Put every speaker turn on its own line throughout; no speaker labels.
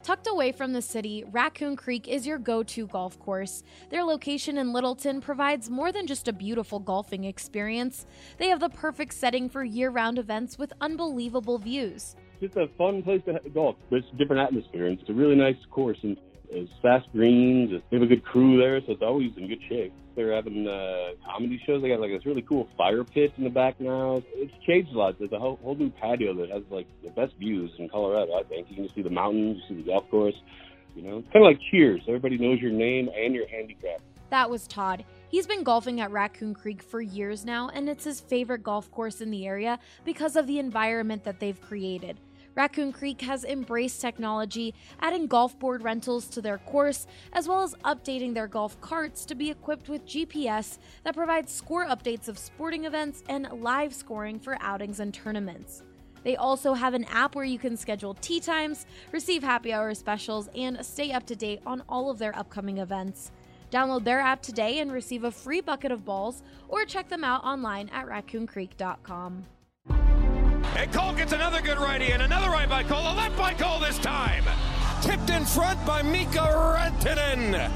Tucked away from the city, Raccoon Creek is your go-to golf course. Their location in Littleton provides more than just a beautiful golfing experience. They have the perfect setting for year-round events with unbelievable views.
It's just a fun place to golf. It's a different atmosphere, and it's a really nice course, and it's fast greens. They have a good crew there, so it's always in good shape. They're having comedy shows. They got like this really cool fire pit in the back now. It's changed a lot. There's a whole new patio that has like the best views in Colorado, I think. You can see the mountains, you see the golf course. You know, it's kind of like Cheers. Everybody knows your name and your handicap.
That was Todd. He's been golfing at Raccoon Creek for years now, and it's his favorite golf course in the area because of the environment that they've created. Raccoon Creek has embraced technology, adding golf board rentals to their course, as well as updating their golf carts to be equipped with GPS that provides score updates of sporting events and live scoring for outings and tournaments. They also have an app where you can schedule tee times, receive happy hour specials, and stay up to date on all of their upcoming events. Download their app today and receive a free bucket of balls, or check them out online at raccooncreek.com.
And Cole gets another good righty, and another right by Cole, a left by Cole this time. Tipped in front by Mika Rantanen.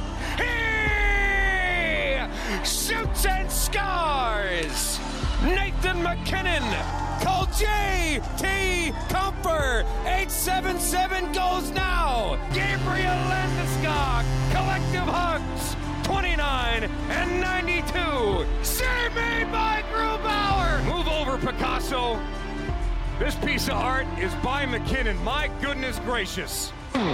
He shoots and scores. Nathan MacKinnon. Call J.T. Comfer. 877 goes now. Gabriel Landeskog. Collective hugs. 29 and 92. Save made by Grubauer. Move over, Picasso. This piece of art is by McKinnon. My goodness gracious.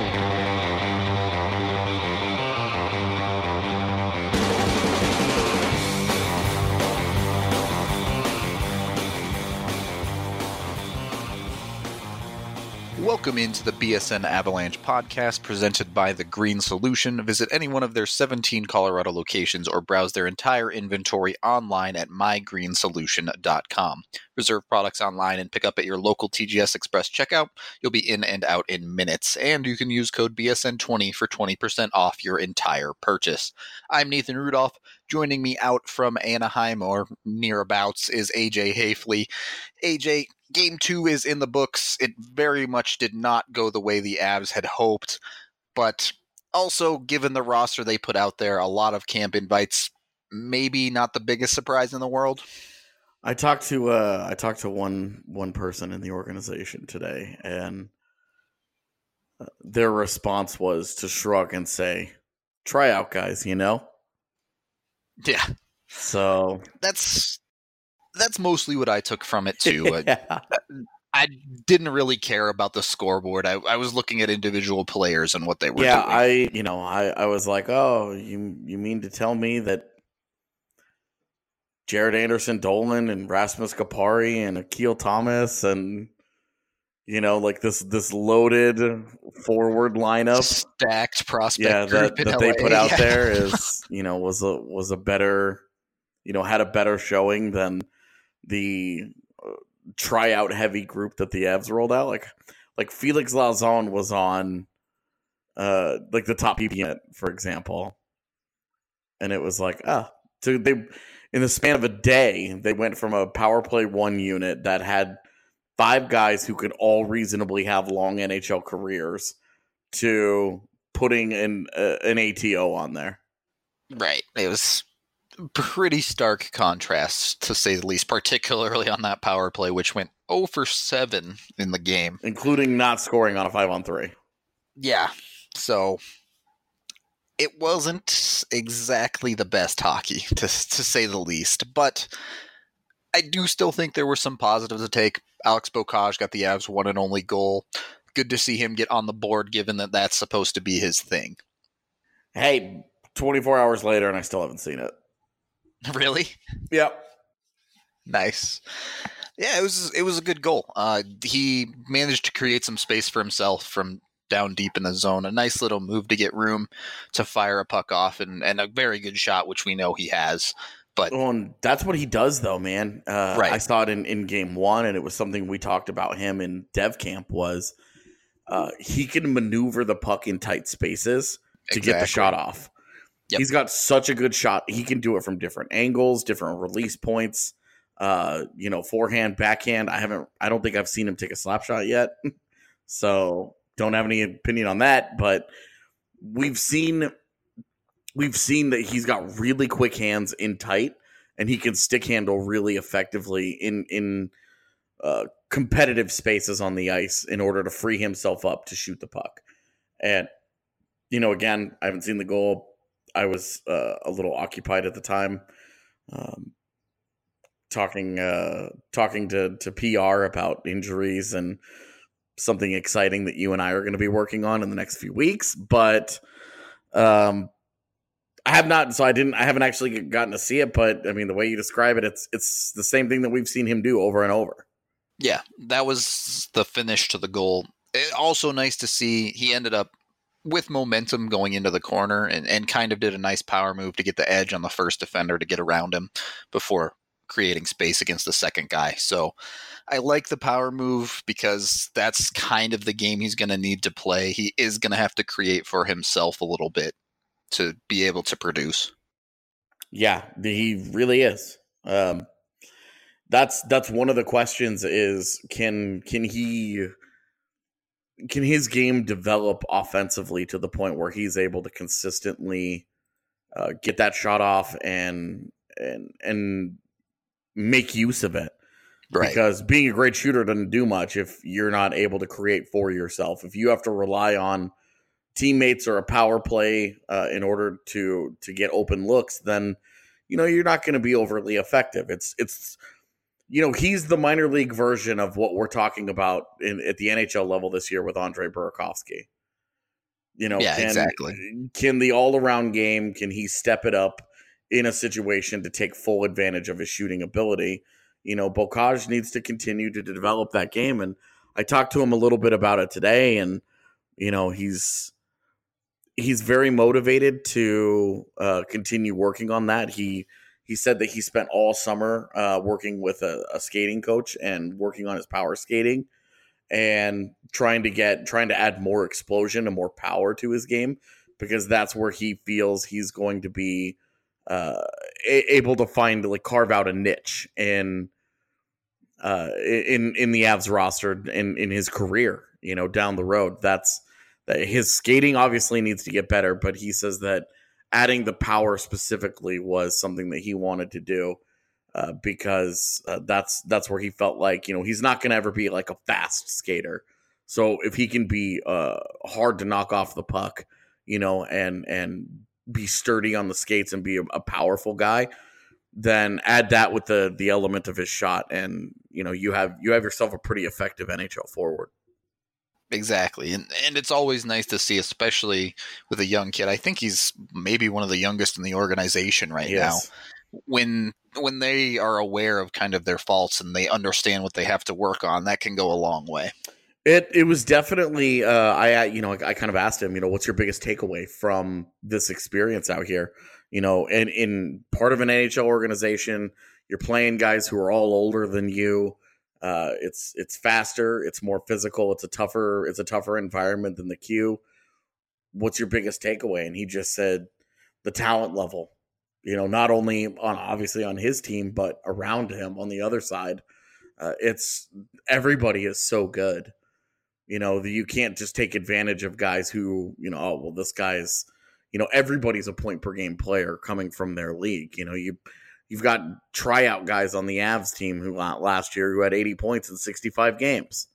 Welcome into the BSN Avalanche podcast presented by The Green Solution. Visit any one of their 17 Colorado locations or browse their entire inventory online at mygreensolution.com. Reserve products online and pick up at your local TGS Express checkout. You'll be in and out in minutes, and you can use code BSN20 for 20% off your entire purchase. I'm Nathan Rudolph. Joining me out from Anaheim or nearabouts is AJ Hafley. AJ, Game 2 is in the books. It very much did not go the way the Avs had hoped, but also, given the roster they put out there, a lot of camp invites, maybe not the biggest surprise in the world.
I talked to one person in the organization today, and their response was to shrug and say, "Try out, guys, you know?"
Yeah.
So
that's mostly what I took from it too.
Yeah.
I didn't really care about the scoreboard. I was looking at individual players and what they were doing.
I was like, "Oh, you mean to tell me that Jared Anderson Dolan and Rasmus Kapari and Akil Thomas and like this loaded forward lineup,
stacked prospect group
that they put out there is was a better had a better showing than the tryout heavy group that the Avs rolled out. Like Felix Lauzon was on like the top unit, for example, and it was like so they in the span of a day they went from a power play 1 unit that had 5 guys who could all reasonably have long NHL careers to putting an ATO on there.
Right. It was pretty stark contrast, to say the least, particularly on that power play, which went 0 for 7 in the game.
Including not scoring on a 5-on-3.
Yeah. So it wasn't exactly the best hockey, to say the least. But I do still think there were some positives to take. Alex Bocage got the Avs' one and only goal. Good to see him get on the board, given that that's supposed to be his thing.
Hey, 24 hours later, and I still haven't seen it.
Really?
Yep.
Nice. Yeah, it was a good goal. He managed to create some space for himself from down deep in the zone. A nice little move to get room to fire a puck off, and a very good shot, which we know he has. But
that's what he does, though, man.
Right.
I saw it in Game 1, and it was something we talked about him in Dev Camp was he can maneuver the puck in tight spaces to get the shot off. Yep. He's got such a good shot. He can do it from different angles, different release points, forehand, backhand. I don't think I've seen him take a slap shot yet. So don't have any opinion on that, but we've seen that he's got really quick hands in tight, and he can stick handle really effectively in competitive spaces on the ice in order to free himself up to shoot the puck. And, again, I haven't seen the goal. I was a little occupied at the time, talking to PR about injuries and something exciting that you and I are going to be working on in the next few weeks. But I haven't actually gotten to see it. But I mean, the way you describe it, it's the same thing that we've seen him do over and over.
Yeah, that was the finish to the goal. Also nice to see he ended up with momentum going into the corner and kind of did a nice power move to get the edge on the first defender to get around him before creating space against the second guy. So I like the power move because that's kind of the game he's going to need to play. He is going to have to create for himself a little bit to be able to produce.
Yeah, he really is. That's one of the questions is can his game develop offensively to the point where he's able to consistently get that shot off and make use of it? Right. Because being a great shooter doesn't do much if you're not able to create for yourself. If you have to rely on teammates or a power play in order to get open looks, then you're not going to be overly effective. It's he's the minor league version of what we're talking about at the NHL level this year with Andre Burakovsky. Exactly. Can the all-around game, can he step it up in a situation to take full advantage of his shooting ability? Bocage needs to continue to develop that game. And I talked to him a little bit about it today, and, he's very motivated to continue working on that. He said that he spent all summer working with a skating coach and working on his power skating and trying to add more explosion and more power to his game, because that's where he feels he's going to be able to carve out a niche in the Avs roster in his career, down the road. That his skating obviously needs to get better, but he says that adding the power specifically was something that he wanted to do because that's where he felt like, he's not going to ever be like a fast skater. So if he can be hard to knock off the puck, and be sturdy on the skates and be a powerful guy, then add that with the element of his shot, and you have yourself a pretty effective NHL forward.
Exactly. And it's always nice to see, especially with a young kid. I think he's maybe one of the youngest in the organization right now. When they are aware of kind of their faults and they understand what they have to work on, that can go a long way.
It was definitely I kind of asked him, what's your biggest takeaway from this experience out here? And in part of an NHL organization, you're playing guys who are all older than you. It's faster, it's more physical, it's a tougher environment than the Q. What's your biggest takeaway? And he just said the talent level. Not only obviously on his team, but around him on the other side. It's everybody is so good. You can't just take advantage of guys who, this guy's, everybody's a point per game player coming from their league. You've got tryout guys on the Avs team who last year who had 80 points in 65 games.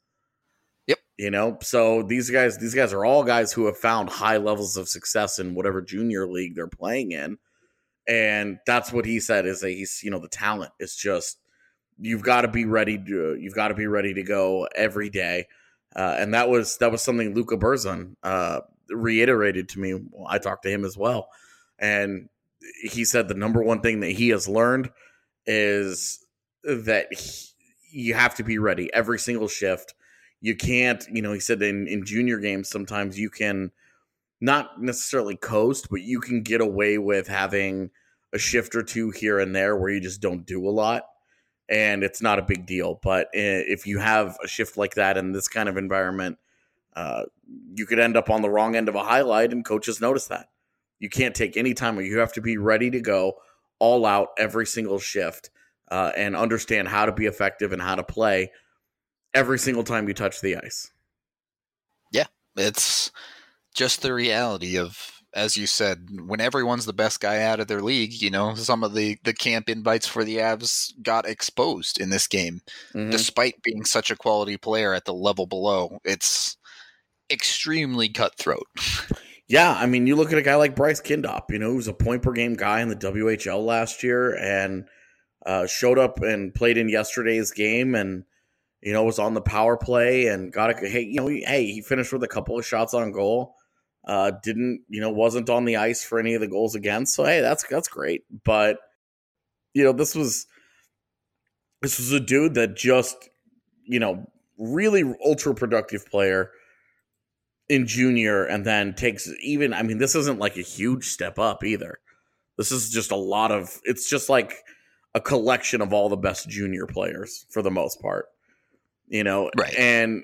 Yep. So these guys are all guys who have found high levels of success in whatever junior league they're playing in. And that's what he said is that he's, the talent is just, you've got to be ready to go every day. And that was something Luka Berzon reiterated to me. I talked to him as well. And he said the number one thing that he has learned is that you have to be ready every single shift. You can't, he said in junior games, sometimes you can not necessarily coast, but you can get away with having a shift or two here and there where you just don't do a lot. And it's not a big deal. But if you have a shift like that in this kind of environment, you could end up on the wrong end of a highlight, and coaches notice that. You can't take any time. You have to be ready to go all out every single shift and understand how to be effective and how to play every single time you touch the ice.
Yeah, It's just the reality of, as you said, when everyone's the best guy out of their league, some of the camp invites for the Avs got exposed in this game, despite being such a quality player at the level below. It's extremely cutthroat.
Yeah, I mean, you look at a guy like Bryce Kindop, who was a point-per-game guy in the WHL last year and showed up and played in yesterday's game and, was on the power play and he finished with a couple of shots on goal. Wasn't on the ice for any of the goals against. So, hey, that's great. But, this was a dude that just, really ultra-productive player in junior, and then this isn't like a huge step up either. This is just it's just like a collection of all the best junior players for the most part,
right.
And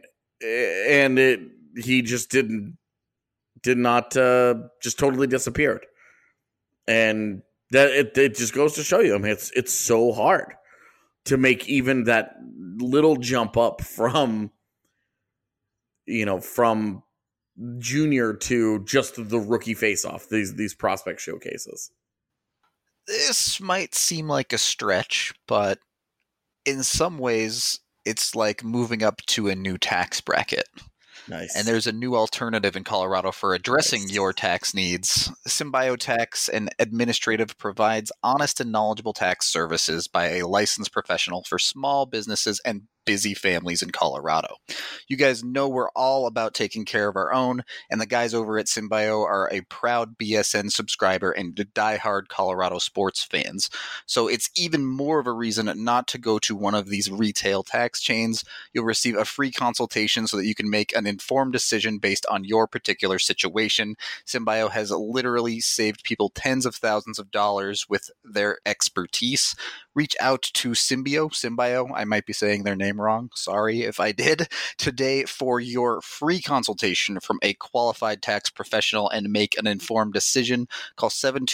he just did not just totally disappeared. And that it just goes to show you, I mean, it's so hard to make even that little jump up from junior to just the rookie face-off, these prospect showcases.
This might seem like a stretch, but in some ways, it's like moving up to a new tax bracket.
Nice.
And there's a new alternative in Colorado for addressing your tax needs. SymbioTax, an administrative, provides honest and knowledgeable tax services by a licensed professional for small businesses and busy families in Colorado. You guys know we're all about taking care of our own, and the guys over at Symbio are a proud BSN subscriber and diehard Colorado sports fans. So it's even more of a reason not to go to one of these retail tax chains. You'll receive a free consultation so that you can make an informed decision based on your particular situation. Symbio has literally saved people tens of thousands of dollars with their expertise. Reach out to Symbio, I might be saying their name wrong, sorry if I did, today for your free consultation from a qualified tax professional and make an informed decision. Call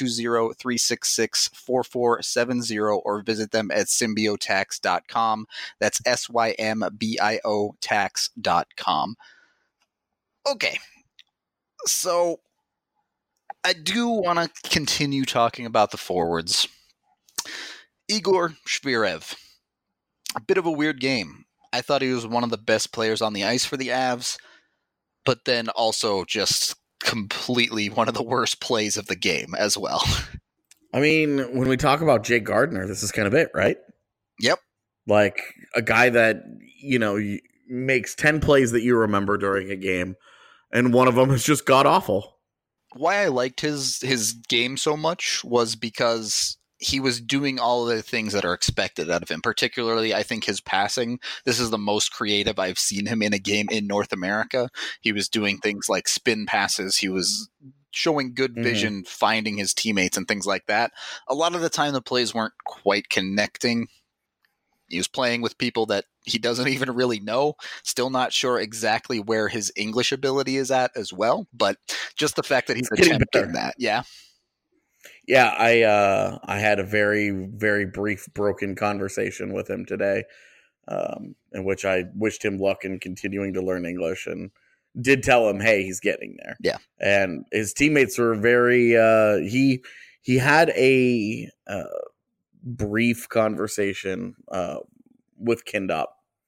720-366-4470 or visit them at symbiotax.com. That's SYMBIO tax.com. Okay, so I do want to continue talking about the forwards. Igor Shvirev, a bit of a weird game. I thought he was one of the best players on the ice for the Avs, but then also just completely one of the worst plays of the game as well.
I mean, when we talk about Jake Gardiner, this is kind of it, right?
Yep.
Like a guy that, makes 10 plays that you remember during a game, and one of them is just god-awful.
Why I liked his game so much was because he was doing all of the things that are expected out of him. Particularly, I think his passing. This is the most creative I've seen him in a game in North America. He was doing things like spin passes. He was showing good vision, finding his teammates and things like that. A lot of the time, the plays weren't quite connecting. He was playing with people that he doesn't even really know. Still not sure exactly where his English ability is at as well. But just the fact that he's attempting that. Yeah.
Yeah, I had a very, very brief broken conversation with him today, in which I wished him luck in continuing to learn English and did tell him, hey, he's getting there.
Yeah.
And his teammates were very he had a brief conversation with Kindop.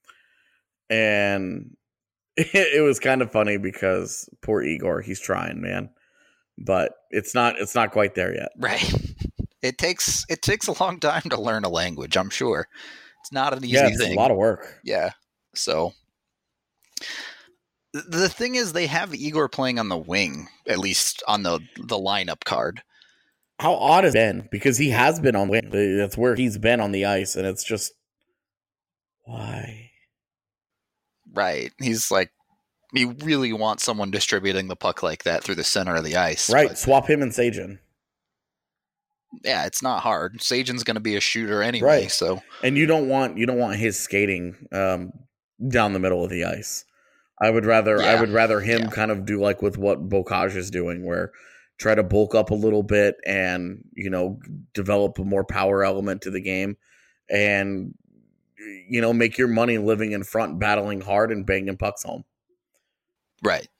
And it was kind of funny because poor Igor, he's trying, man. But it's not quite there yet.
Right. It takes a long time to learn a language, I'm sure. It's not an easy thing.
It's a lot of work.
Yeah. So the thing is, they have Igor playing on the wing, at least on the lineup card.
How odd has it been? Because he has been on the wing. That's where he's been on the ice, and it's just why?
Right. He's like, you really want someone distributing the puck like that through the center of the ice.
Right.
But
swap him and Sajin.
Yeah, it's not hard. Sajin's going to be a shooter anyway.
Right.
So,
and you don't want his skating down the middle of the ice. I would rather him kind of do like with what Bocage is doing, where try to bulk up a little bit and develop a more power element to the game, and make your money living in front, battling hard, and banging pucks home.
Right.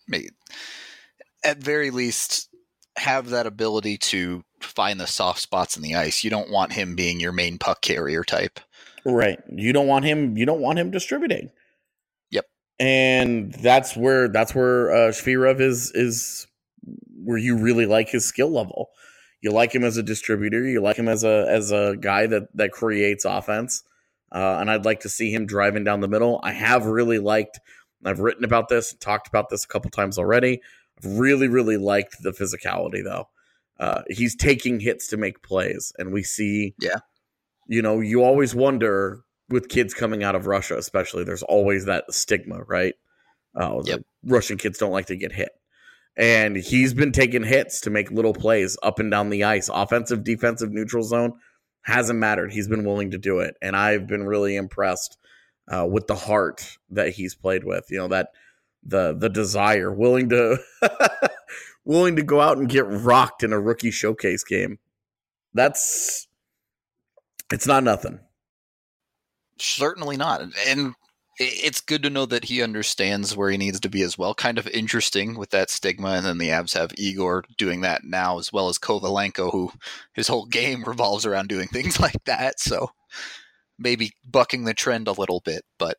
at very least have that ability to find the soft spots in the ice. You don't want him being your main puck carrier type.
Right. You don't want him distributing.
Yep.
And that's where Shvirov is where you really like his skill level. You like him as a distributor. You like him as a guy that creates offense. And I'd like to see him driving down the middle. I have really liked, I've written about this, talked about this a couple times already. I've really, really liked the physicality, though. He's taking hits to make plays. And we see, you always wonder with kids coming out of Russia, especially, there's always that stigma, right? Russian kids don't like to get hit. And he's been taking hits to make little plays up and down the ice. Offensive, defensive, neutral zone, hasn't mattered. He's been willing to do it. And I've been really impressed with the heart that he's played with. That the desire, willing to go out and get rocked in a rookie showcase game. It's not nothing.
Certainly not. And it's good to know that he understands where he needs to be as well. Kind of interesting with that stigma. And then the Avs have Igor doing that now, as well as Kovalenko, who his whole game revolves around doing things like that. So maybe bucking the trend a little bit, but.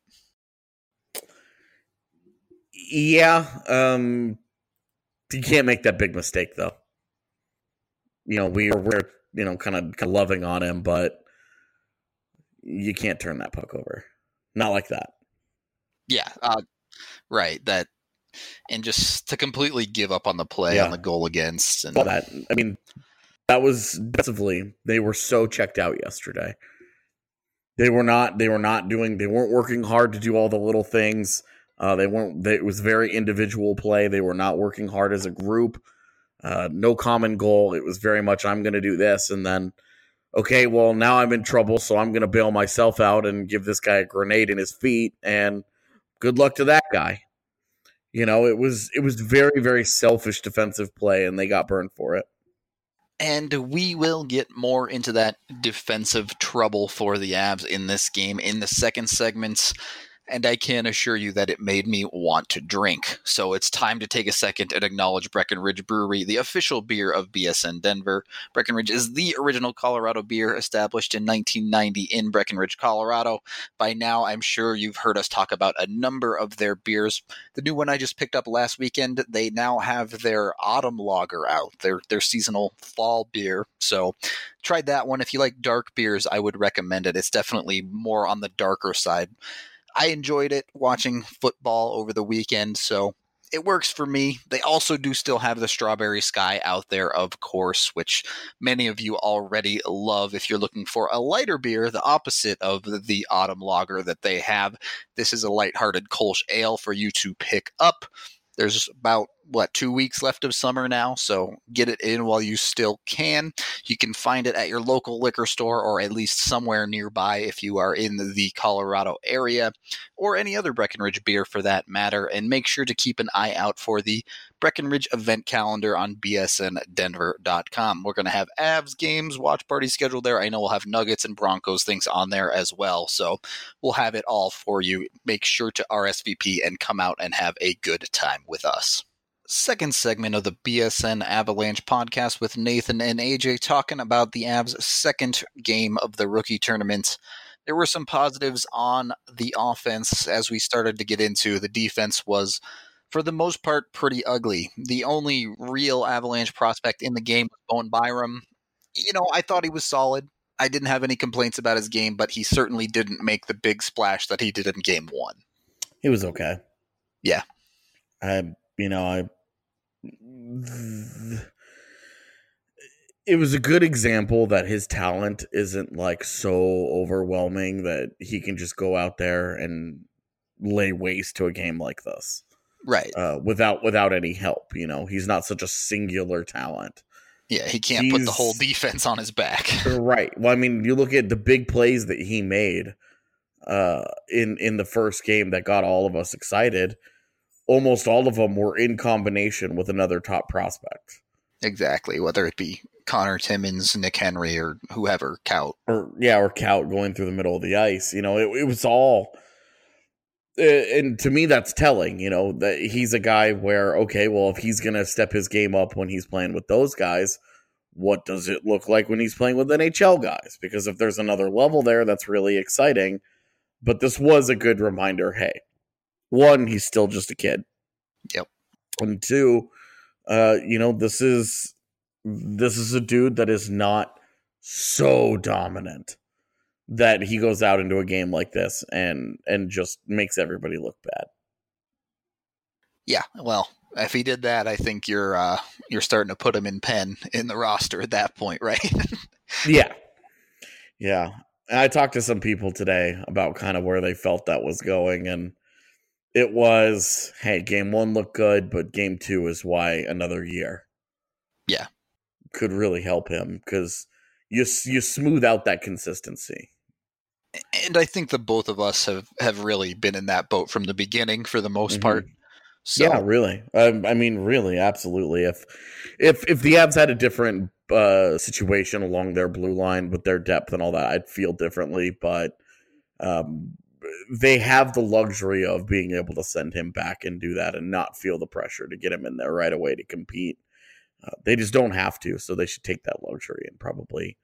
Yeah. You can't make that big mistake, though. We're kind of loving on him, but you can't turn that puck over. Not like that.
Yeah, right. That, and just to completely give up on the play on the goal against. And
that was defensively. They were so checked out yesterday. They weren't working hard to do all the little things. It was very individual play. They were not working hard as a group. No common goal. It was very much, I'm going to do this. And then, okay, well, now I'm in trouble, so I'm going to bail myself out and give this guy a grenade in his feet. And good luck to that guy. It was very, very selfish defensive play, and they got burned for it.
And we will get more into that defensive trouble for the Avs in this game in the second segment. And I can assure you that it made me want to drink. So it's time to take a second and acknowledge Breckenridge Brewery, the official beer of BSN Denver. Breckenridge is the original Colorado beer established in 1990 in Breckenridge, Colorado. By now, I'm sure you've heard us talk about a number of their beers. The new one I just picked up last weekend, they now have their Autumn Lager out, their seasonal fall beer. So tried that one. If you like dark beers, I would recommend it. It's definitely more on the darker side. I enjoyed it watching football over the weekend, so it works for me. They also do still have the Strawberry Sky out there, of course, which many of you already love. If you're looking for a lighter beer, the opposite of the Autumn Lager that they have, this is a lighthearted Kolsch Ale for you to pick up. There's about, 2 weeks left of summer now, so get it in while you still can. You can find it at your local liquor store or at least somewhere nearby if you are in the Colorado area, or any other Breckenridge beer for that matter. And make sure to keep an eye out for the Breckenridge event calendar on bsndenver.com. We're going to have Avs games, watch party scheduled there. I know we'll have Nuggets and Broncos things on there as well, so we'll have it all for you. Make sure to RSVP and come out and have a good time with us. Second segment of the BSN Avalanche podcast with Nathan and AJ talking about the Avs' second game of the rookie tournament. There were some positives on the offense as we started to get into. The defense was, for the most part, pretty ugly. The only real Avalanche prospect in the game was Bowen Byram. I thought he was solid. I didn't have any complaints about his game, but he certainly didn't make the big splash that he did in game one.
He was okay.
Yeah.
It was a good example that his talent isn't so overwhelming that he can just go out there and lay waste to a game like this.
Right.
Without any help. He's not such a singular talent.
Yeah, he can't put the whole defense on his back.
Right. Well, you look at the big plays that he made in the first game that got all of us excited. Almost all of them were in combination with another top prospect.
Exactly, whether it be Connor Timmins, Nick Henry, or whoever, Kaut.
Or Kaut going through the middle of the ice. It was all And to me, that's telling, that he's a guy where, okay, well, if he's going to step his game up when he's playing with those guys, what does it look like when he's playing with NHL guys? Because if there's another level there, that's really exciting. But this was a good reminder. Hey, one, he's still just a kid.
Yep.
And two, this is a dude that is not so dominant that he goes out into a game like this and just makes everybody look bad.
Yeah, well, if he did that, I think you're starting to put him in pen in the roster at that point, right?
Yeah. And I talked to some people today about kind of where they felt that was going, and it was, hey, game 1 looked good, but game 2 is why another year.
Yeah,
could really help him because you smooth out that consistency.
And I think the both of us have really been in that boat from the beginning for the most part. So.
Yeah, really. I mean, really, absolutely. If the Avs had a different situation along their blue line with their depth and all that, I'd feel differently. But they have the luxury of being able to send him back and do that and not feel the pressure to get him in there right away to compete. They just don't have to, so they should take that luxury and probably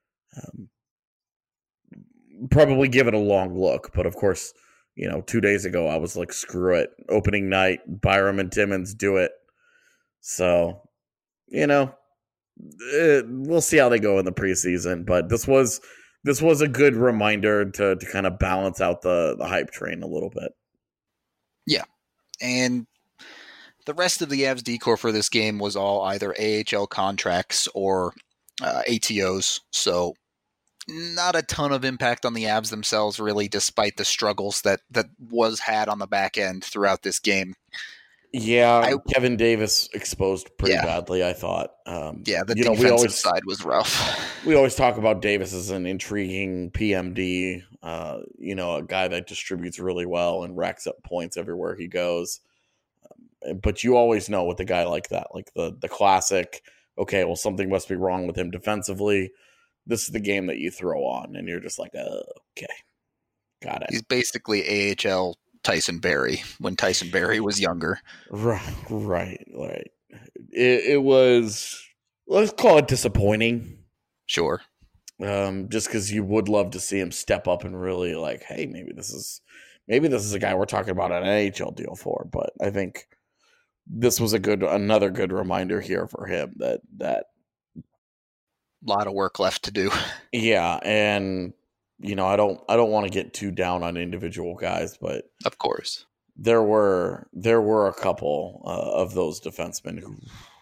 give it a long look. But of course, 2 days ago, I was like, screw it. Opening night, Byram and Timmins do it. So, we'll see how they go in the preseason. But this was a good reminder to kind of balance out the hype train a little bit.
Yeah. And the rest of the Avs decor for this game was all either AHL contracts or ATOs. So not a ton of impact on the Avs themselves, really, despite the struggles that was had on the back end throughout this game.
Yeah, Kevin Davis exposed pretty badly, I thought.
The defensive side was rough.
We always talk about Davis as an intriguing PMD, a guy that distributes really well and racks up points everywhere he goes. But you always know with a guy like that, like the classic, okay, well, something must be wrong with him defensively. This is the game that you throw on, and you're just like, okay, got it.
He's basically AHL Tyson Barrie when Tyson Barrie was younger.
Right. It was, let's call it disappointing.
Sure.
Just because you would love to see him step up and really like, hey, maybe this is a guy we're talking about an NHL deal for. But I think this was another good reminder here for him that
lot of work left to do.
Yeah, and I don't want to get too down on individual guys, but
of course
there were a couple of those defensemen who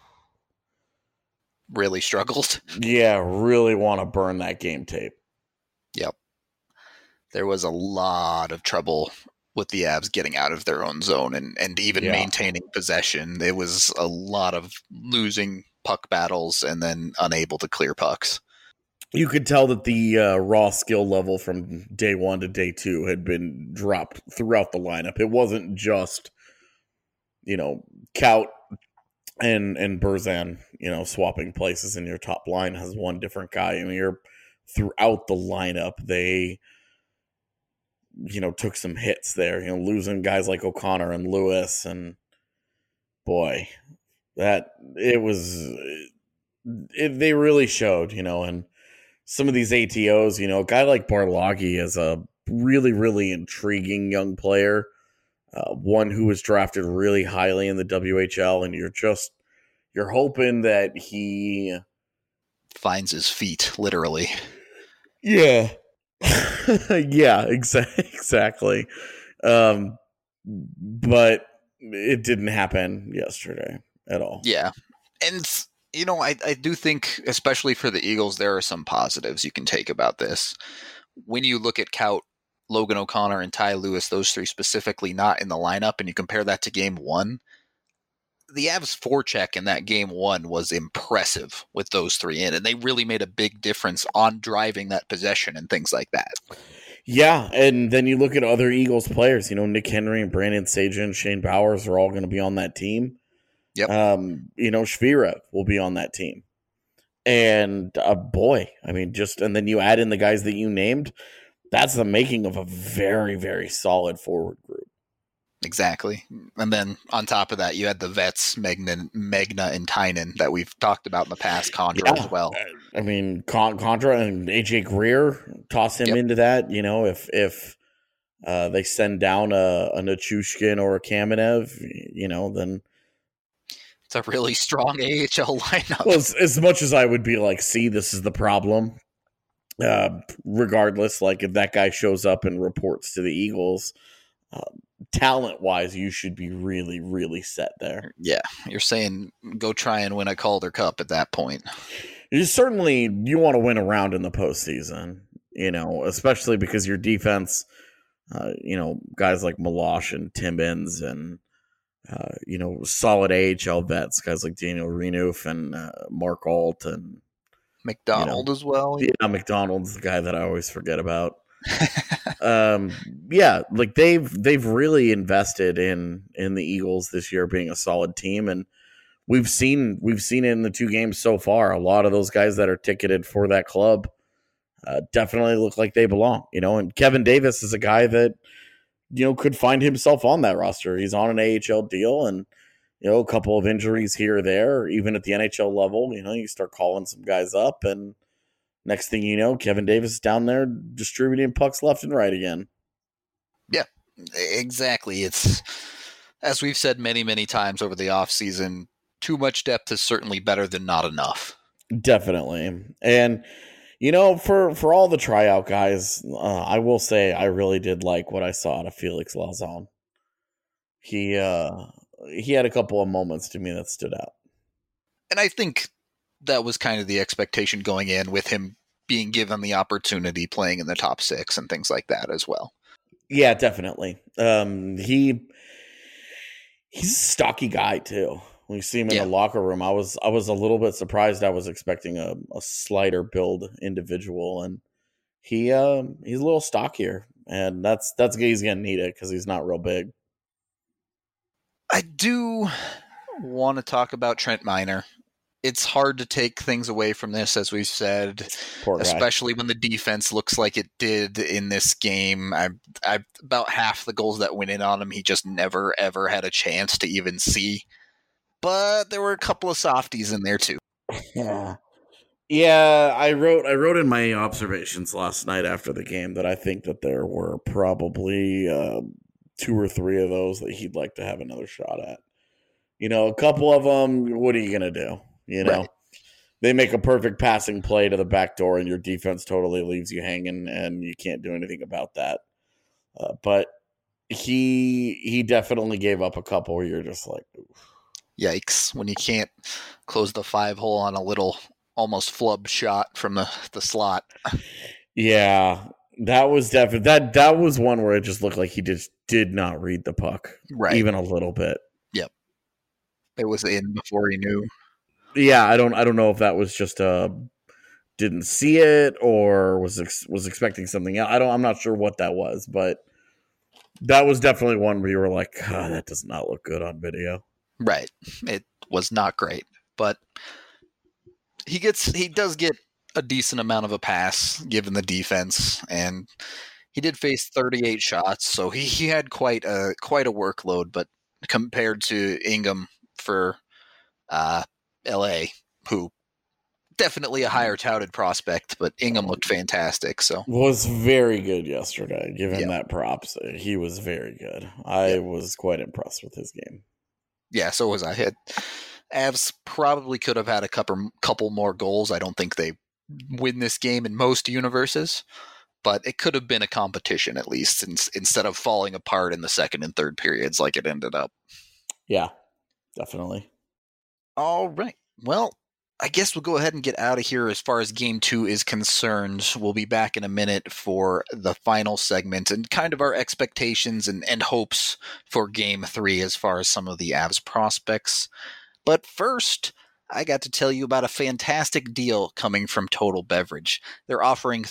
really struggled.
Yeah, really want to burn that game tape.
Yep. There was a lot of trouble with the Avs getting out of their own zone and even maintaining possession. There was a lot of losing puck battles and then unable to clear pucks.
You could tell that the raw skill level from day 1 to day 2 had been dropped throughout the lineup. It wasn't just, Kaut and Berzan, swapping places in your top line has one different guy. I mean, you're throughout the lineup. They, took some hits there, losing guys like O'Connor and Lewis, and boy, that it was, they really showed, and some of these ATOs, a guy like Barloggy is a really, really intriguing young player, one who was drafted really highly in the WHL, and you're hoping that he
finds his feet, literally.
Yeah. Yeah, exactly. But it didn't happen yesterday at all.
Yeah. And I do think, especially for the Eagles, there are some positives you can take about this. When you look at Kaut, Logan O'Connor, and Ty Lewis, those three specifically not in the lineup, and you compare that to game 1, the Avs forecheck in that game 1 was impressive with those three in, and they really made a big difference on driving that possession and things like that.
Yeah, and then you look at other Eagles players, Nick Henry and Brandon Sagan, Shane Bowers are all going to be on that team.
Yep.
Shvira will be on that team. And boy, I mean, and then you add in the guys that you named, that's the making of a very, very solid forward group.
Exactly. And then on top of that, you had the vets, Megna and Tynan that we've talked about in the past, Condra as well.
I mean, Condra and AJ Greer, toss him into that. You know, if they send down a Nichushkin or a Kamenev, you know, then
it's a really strong AHL lineup.
Well, as much as I would be like, see, this is the problem. Regardless, like if that guy shows up and reports to the Eagles, talent-wise, you should be really, really set there.
Yeah, you're saying go try and win a Calder Cup at that point.
You want to win a round in the postseason, you know, especially because your defense, you know, guys like Milosh and Timmins and, you know, solid AHL vets, guys like Daniel Renouf and Mark Alt and
McDonald as well.
Yeah, McDonald's the guy that I always forget about. Yeah, like they've really invested in the Eagles this year being a solid team, and we've seen it in the 2 games so far. A lot of those guys that are ticketed for that club definitely look like they belong, you know. And Kevin Davis is a guy that, you know, could find himself on that roster. He's on an AHL deal, and you know, a couple of injuries here or there, even at the NHL level, you know, you start calling some guys up, and next thing you know, Kevin Davis is down there distributing pucks left and right again.
Yeah, exactly. It's, as we've said many, many times over the offseason, too much depth is certainly better than not enough.
Definitely. And, you know, for all the tryout guys, I will say I really did like what I saw out of Felix Lauzon. He had a couple of moments to me that stood out.
And I think that was kind of the expectation going in with him being given the opportunity playing in the top 6 and things like that as well.
Yeah, definitely. He's a stocky guy too. When you see him in the locker room, I was a little bit surprised. I was expecting a slighter build individual, and he's a little stockier, and that's he's gonna need it because he's not real big.
I do want to talk about Trent Miner. It's hard to take things away from this, as we've said, especially when the defense looks like it did in this game. I about half the goals that went in on him, he just never, ever had a chance to even see. But there were a couple of softies in there, too.
Yeah, I wrote in my observations last night after the game that I think that there were probably 2 or 3 of those that he'd like to have another shot at. You know, a couple of them, what are you going to do? You know, They make a perfect passing play to the back door and your defense totally leaves you hanging and you can't do anything about that. But he definitely gave up a couple where you're just like, oof.
Yikes, when you can't close the 5-hole on a little almost flub shot from the slot.
Yeah, that was definitely that was one where it just looked like he just did not read the puck,
right?
Even a little bit.
Yep, it was in before he knew.
Yeah, I don't know if that was just didn't see it or was expecting something else. I'm not sure what that was, but that was definitely one where you were like, oh, that does not look good on video.
Right, it was not great, but he does get a decent amount of a pass given the defense, and he did face 38 shots, so he had quite a workload. But compared to Ingham for LA, who definitely a higher touted prospect, but Ingham looked fantastic. So
was very good yesterday. Give him that props. He was very good. I was quite impressed with his game.
Yeah, so was I. Avs probably could have had a couple more goals. I don't think they win this game in most universes, but it could have been a competition at least instead of falling apart in the second and third periods like it ended up.
Yeah, definitely.
All right. Well, I guess we'll go ahead and get out of here as far as Game 2 is concerned. We'll be back in a minute for the final segment and kind of our expectations and hopes for Game 3 as far as some of the Avs prospects. But first, I got to tell you about a fantastic deal coming from Total Beverage. They're offering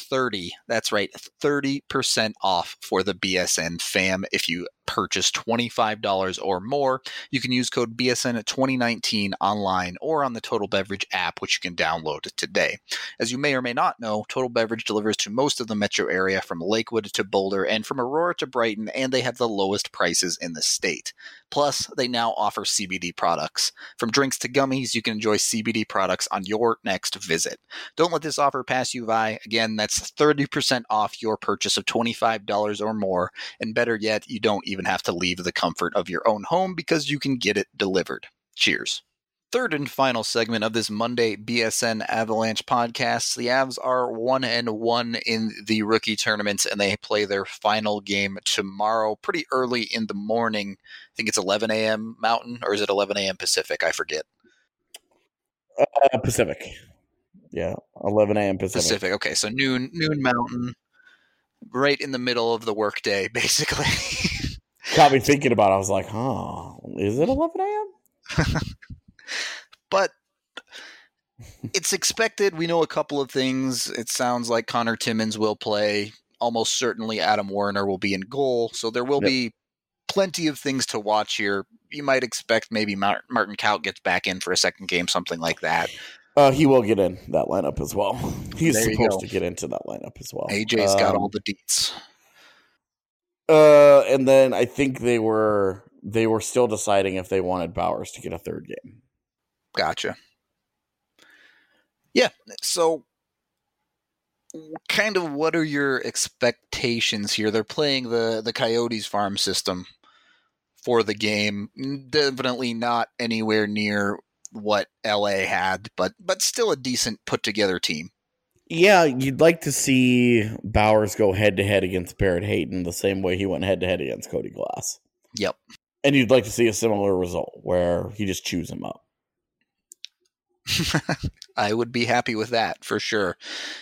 30% off for the BSN fam. If you purchase $25 or more, you can use code BSN at 2019 online or on the Total Beverage app, which you can download today. As you may or may not know, Total Beverage delivers to most of the metro area from Lakewood to Boulder and from Aurora to Brighton, and they have the lowest prices in the state. Plus, they now offer CBD products. From drinks to gummies, you can enjoy CBD products on your next visit. Don't let this offer pass you by. Again, that's 30% off your purchase of $25 or more, and better yet, you don't even have to leave the comfort of your own home because you can get it delivered. Cheers. Third and final segment of this Monday BSN Avalanche podcast. The Avs are 1-1 in the rookie tournaments, and they play their final game tomorrow pretty early in the morning. I think it's 11 a.m. Mountain, or is it 11 a.m. Pacific? I forget.
Pacific. Yeah, 11 a.m.
Pacific. Okay, so noon Mountain, right in the middle of the workday, basically.
Got me thinking about it. I was like, is it 11 a.m.?
But it's expected. We know a couple of things. It sounds like Connor Timmins will play. Almost certainly Adam Werner will be in goal. So there will be plenty of things to watch here. You might expect maybe Martin Kaut gets back in for a second game, something like that.
He will get in that lineup as well. He's supposed to get into that lineup as well.
AJ's got all the deets.
And then I think they were still deciding if they wanted Bowers to get a third game.
Gotcha. Yeah, so kind of what are your expectations here? They're playing the Coyotes farm system for the game. Definitely not anywhere near what LA had, but still a decent put-together team.
Yeah, you'd like to see Bowers go head-to-head against Barrett Hayton the same way he went head-to-head against Cody Glass.
Yep.
And you'd like to see a similar result where he just chews him up.
I would be happy with that, for sure.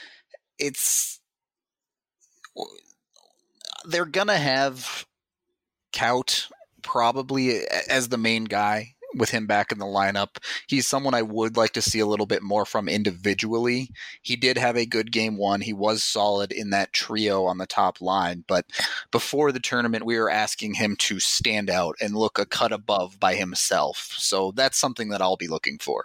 They're going to have Kaut probably as the main guy with him back in the lineup. He's someone I would like to see a little bit more from individually. He did have a good game one. He was solid in that trio on the top line, but before the tournament, we were asking him to stand out and look a cut above by himself. So that's something that I'll be looking for.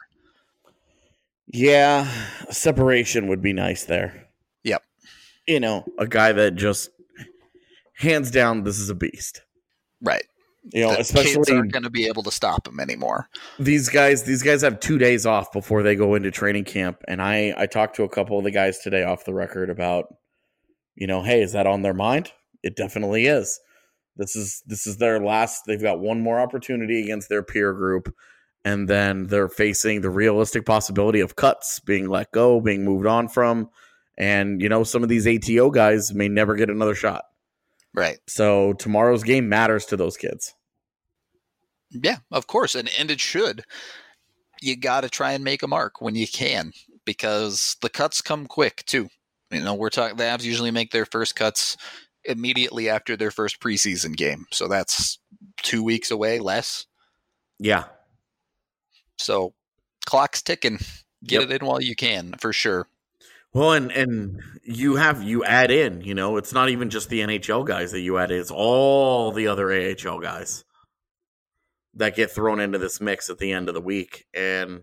Yeah, separation would be nice there.
Yep.
You know, a guy that just, hands down, this is a beast.
Right.
You know, especially
kids aren't going to be able to stop him anymore.
These guys have 2 days off before they go into training camp. And I talked to a couple of the guys today off the record about, you know, hey, is that on their mind? It definitely is. This is their last. They've got one more opportunity against their peer group. And then they're facing the realistic possibility of cuts, being let go, being moved on from. And, you know, some of these ATO guys may never get another shot.
Right.
So tomorrow's game matters to those kids.
Yeah, of course. And it should. You got to try and make a mark when you can, because the cuts come quick too. You know, the Avs usually make their first cuts immediately after their first preseason game. So that's 2 weeks away, less.
Yeah.
So clock's ticking. Get it in while you can, for sure.
Well, and you add in, you know, it's not even just the NHL guys that you add in, it's all the other AHL guys that get thrown into this mix at the end of the week. And,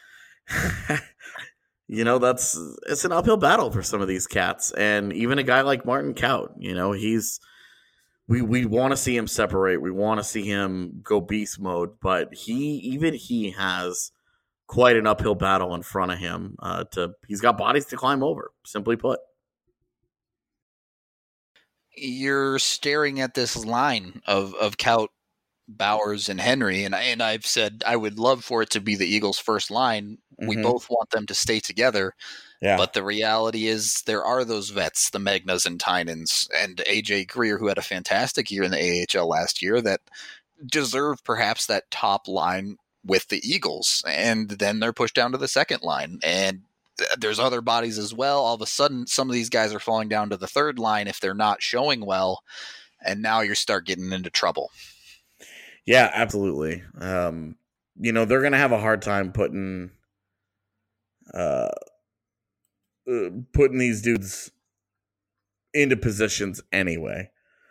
you know, it's an uphill battle for some of these cats. And even a guy like Martin Kaut, you know, we want to see him separate. We want to see him go beast mode, but he has quite an uphill battle in front of him. He's got bodies to climb over, simply put.
You're staring at this line of Kaut, Bowers, and Henry, and I've said I would love for it to be the Eagles' first line. Mm-hmm. We both want them to stay together. Yeah. But the reality is there are those vets, the Magnas and Tynans, and AJ Greer, who had a fantastic year in the AHL last year, that deserve perhaps that top line with the Eagles. And then they're pushed down to the second line. And there's other bodies as well. All of a sudden, some of these guys are falling down to the third line if they're not showing well. And now you start getting into trouble.
Yeah, absolutely. You know, they're going to have a hard time putting putting these dudes into positions anyway.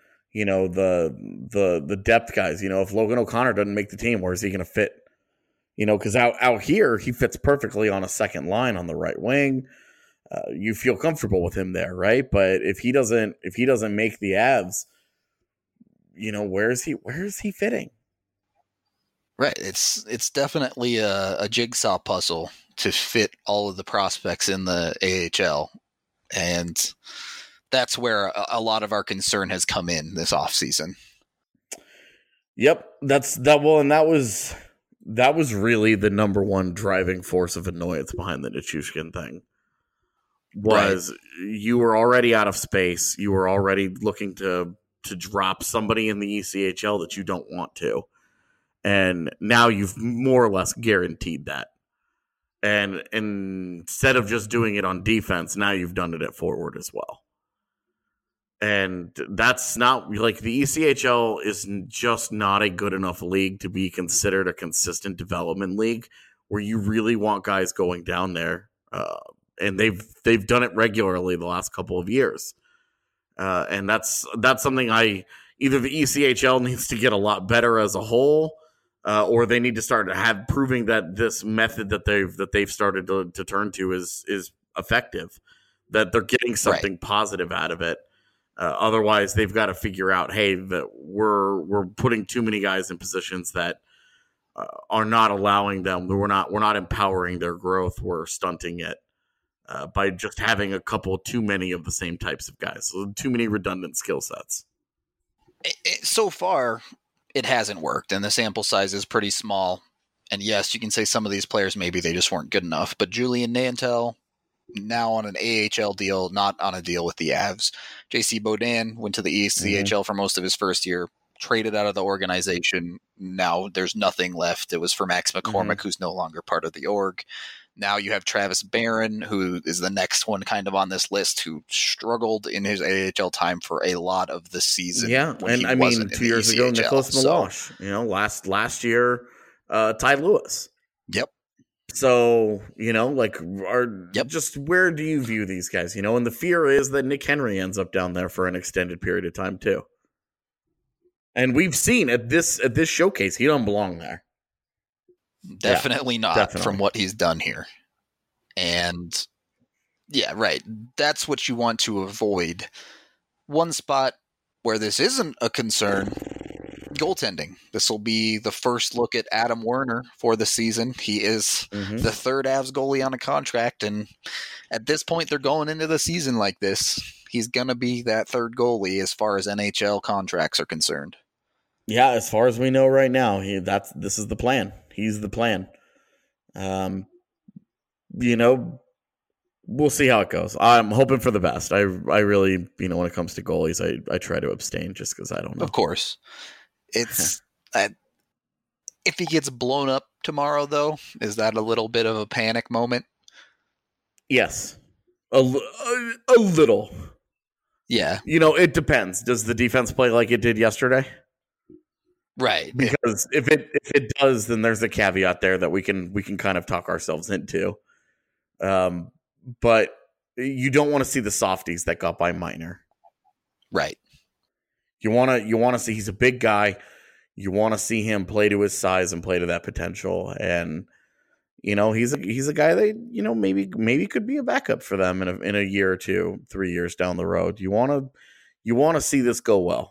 The depth guys. If Logan O'Connor doesn't make the team, where is he going to fit? Because out here he fits perfectly on a second line on the right wing. You feel comfortable with him there, right? But if he doesn't make the Avs, where is he fitting?
Right. It's definitely a jigsaw puzzle to fit all of the prospects in the AHL. And that's where a lot of our concern has come in this offseason.
Yep. That was really the number one driving force of annoyance behind the Nichushkin thing. Was right. You were already out of space. You were already looking to drop somebody in the ECHL that you don't want to. And now you've more or less guaranteed that. And instead of just doing it on defense, now you've done it at forward as well. And that's not like the ECHL is just not a good enough league to be considered a consistent development league where you really want guys going down there. And they've done it regularly the last couple of years. And that's something either the ECHL needs to get a lot better as a whole, or they need to start proving that this method that they've started to turn to is effective, that they're getting something positive out of it. Otherwise, they've got to figure out, hey, that we're putting too many guys in positions that are not allowing them. We're not empowering their growth. We're stunting it by just having a couple too many of the same types of guys. So too many redundant skill sets.
So far, it hasn't worked, and the sample size is pretty small. And yes, you can say some of these players, maybe they just weren't good enough. But Julian Nantel, now on an AHL deal, not on a deal with the Avs. JC Bodin went to the ECHL for most of his first year, traded out of the organization. Now there's nothing left. It was for Max McCormick, who's no longer part of the org. Now you have Travis Barron, who is the next one kind of on this list, who struggled in his AHL time for a lot of the season.
Yeah, and I mean, 2 years ago, Nicholas Milosh. Last year, Ty Lewis.
Yep.
So, just where do you view these guys? And the fear is that Nick Henry ends up down there for an extended period of time too. And we've seen at this showcase, he don't belong there.
Definitely not from what he's done here. And yeah, right. That's what you want to avoid. One spot where this isn't a concern, goaltending. This will be the first look at Adam Werner for the season. He is the third Avs goalie on a contract, and at this point they're going into the season like this. He's going to be that third goalie as far as NHL contracts are concerned.
Yeah, as far as we know right now, this is the plan. He's the plan. We'll see how it goes. I'm hoping for the best. I really, when it comes to goalies, I try to abstain just because I don't know.
Of course. It's if he gets blown up tomorrow, though, is that a little bit of a panic moment?
Yes, a little.
Yeah,
it depends. Does the defense play like it did yesterday?
Right.
Because if it does, then there's a caveat there that we can kind of talk ourselves into. But you don't want to see the softies that got by Minor.
Right.
You want to see he's a big guy. You want to see him play to his size and play to that potential. And he's a guy that maybe could be a backup for them in a year or 2, 3 years down the road. You want to see this go well.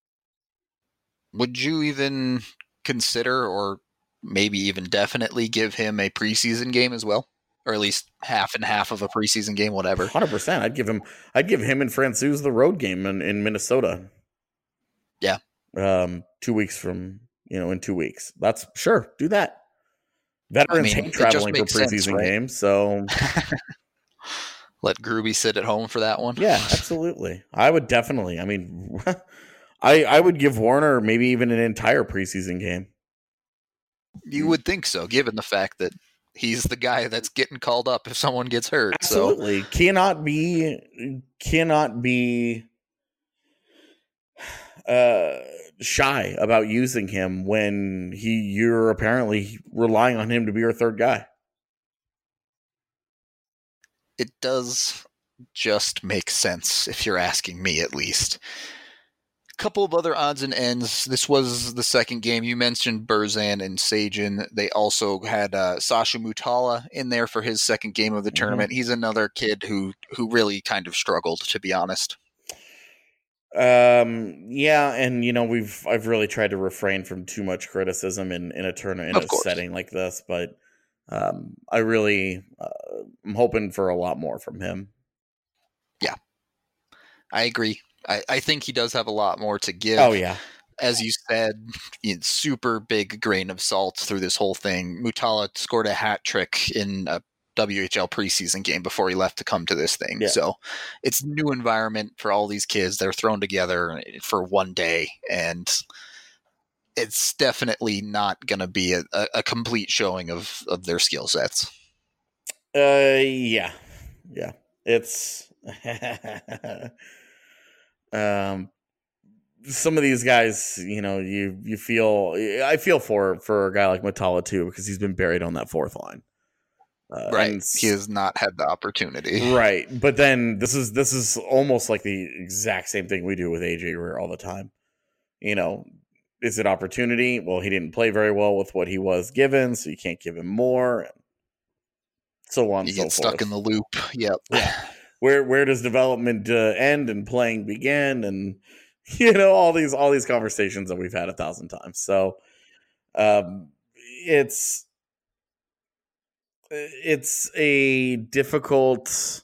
Would you even consider, or maybe even definitely, give him a preseason game as well, or at least half and half of a preseason game, whatever?
100%. I'd give him and Francouz the road game in Minnesota.
Yeah.
2 weeks from in 2 weeks. That's sure. Do that. Veterans hate traveling for preseason games, so
let Gruby sit at home for that one.
Yeah, absolutely. I would definitely. I mean. I would give Warner maybe even an entire preseason game.
You would think so, given the fact that he's the guy that's getting called up if someone gets hurt.
Absolutely. So. Cannot be shy about using him when you're apparently relying on him to be your third guy.
It does just make sense, if you're asking me at least. A couple of other odds and ends. This was the second game. You mentioned Berzan and Sajin. They also had Sasha Mutala in there for his second game of the tournament. He's another kid who really kind of struggled, to be honest.
Yeah, and I've really tried to refrain from too much criticism in a tournament in a setting like this, but I really I'm hoping for a lot more from him.
Yeah, I agree. I think he does have a lot more to give.
Oh, yeah.
As you said, super big grain of salt through this whole thing. Mutala scored a hat trick in a WHL preseason game before he left to come to this thing.
Yeah.
So it's a new environment for all these kids. They're thrown together for one day, and it's definitely not going to be a complete showing of their skill sets.
Yeah. It's some of these guys, you feel, I feel for a guy like Mutala too, because he's been buried on that fourth line.
Right. He has not had the opportunity.
Right. But then this is almost like the exact same thing we do with AJ Greer all the time. Is it opportunity? Well, he didn't play very well with what he was given, so you can't give him more. And so on and so forth.
Stuck in the loop. Yep.
Yeah. Where does development end and playing begin? And all these conversations that we've had 1,000 times. So it's a difficult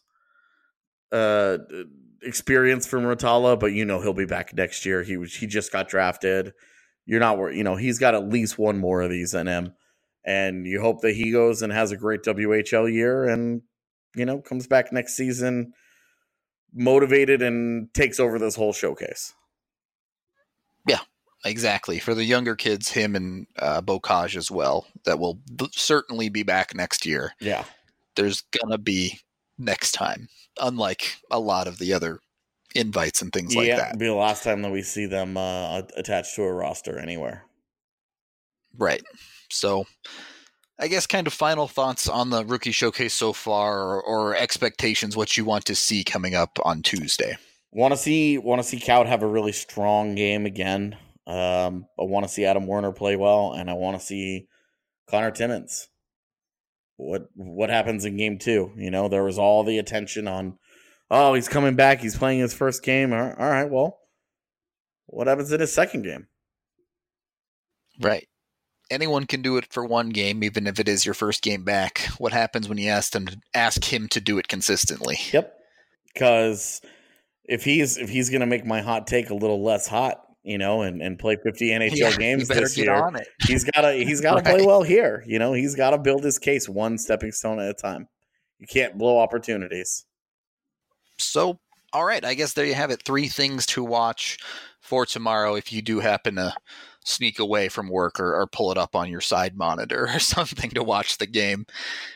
experience for Mutala, but he'll be back next year. He just got drafted. You're not worried. He's got at least one more of these in him, and you hope that he goes and has a great WHL year and comes back next season motivated and takes over this whole showcase.
Yeah, exactly. For the younger kids, him and Bocage as well, that will certainly be back next year.
Yeah.
There's going to be next time, unlike a lot of the other invites and things like that.
Yeah, it'll be the last time that we see them attached to a roster anywhere.
Right. So I guess kind of final thoughts on the rookie showcase so far, or expectations, what you want to see coming up on Tuesday.
Want to see Kaut have a really strong game again. I want to see Adam Werner play well, and I want to see Connor Timmins. What happens in game 2? There was all the attention on, oh, he's coming back, he's playing his first game. All right, well, what happens in his second game?
Right. Anyone can do it for one game, even if it is your first game back. What happens when you ask him to do it consistently?
Yep. Because if he's going to make my hot take a little less hot, and play 50 NHL games this year, he's got to play well here. He's got to build his case one stepping stone at a time. You can't blow opportunities.
So, all right, I guess there you have it. 3 things to watch for tomorrow if you do happen to sneak away from work or pull it up on your side monitor or something to watch the game.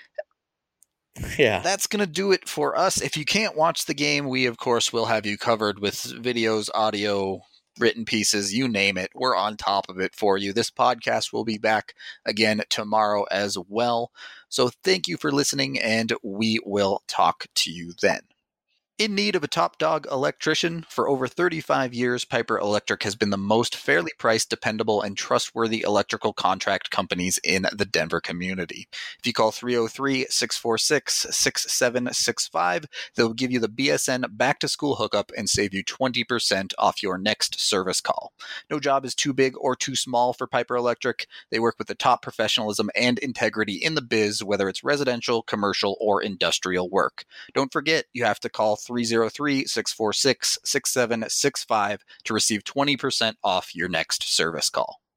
Yeah.
That's going to do it for us. If you can't watch the game, we, of course, will have you covered with videos, audio, written pieces, you name it. We're on top of it for you. This podcast will be back again tomorrow as well. So thank you for listening, and we will talk to you then. In need of a top dog electrician? For over 35 years, Piper Electric has been the most fairly priced, dependable, and trustworthy electrical contract companies in the Denver community. If you call 303-646-6765, they'll give you the BSN back-to-school hookup and save you 20% off your next service call. No job is too big or too small for Piper Electric. They work with the top professionalism and integrity in the biz, whether it's residential, commercial, or industrial work. Don't forget, you have to call 303-646-6765 to receive 20% off your next service call.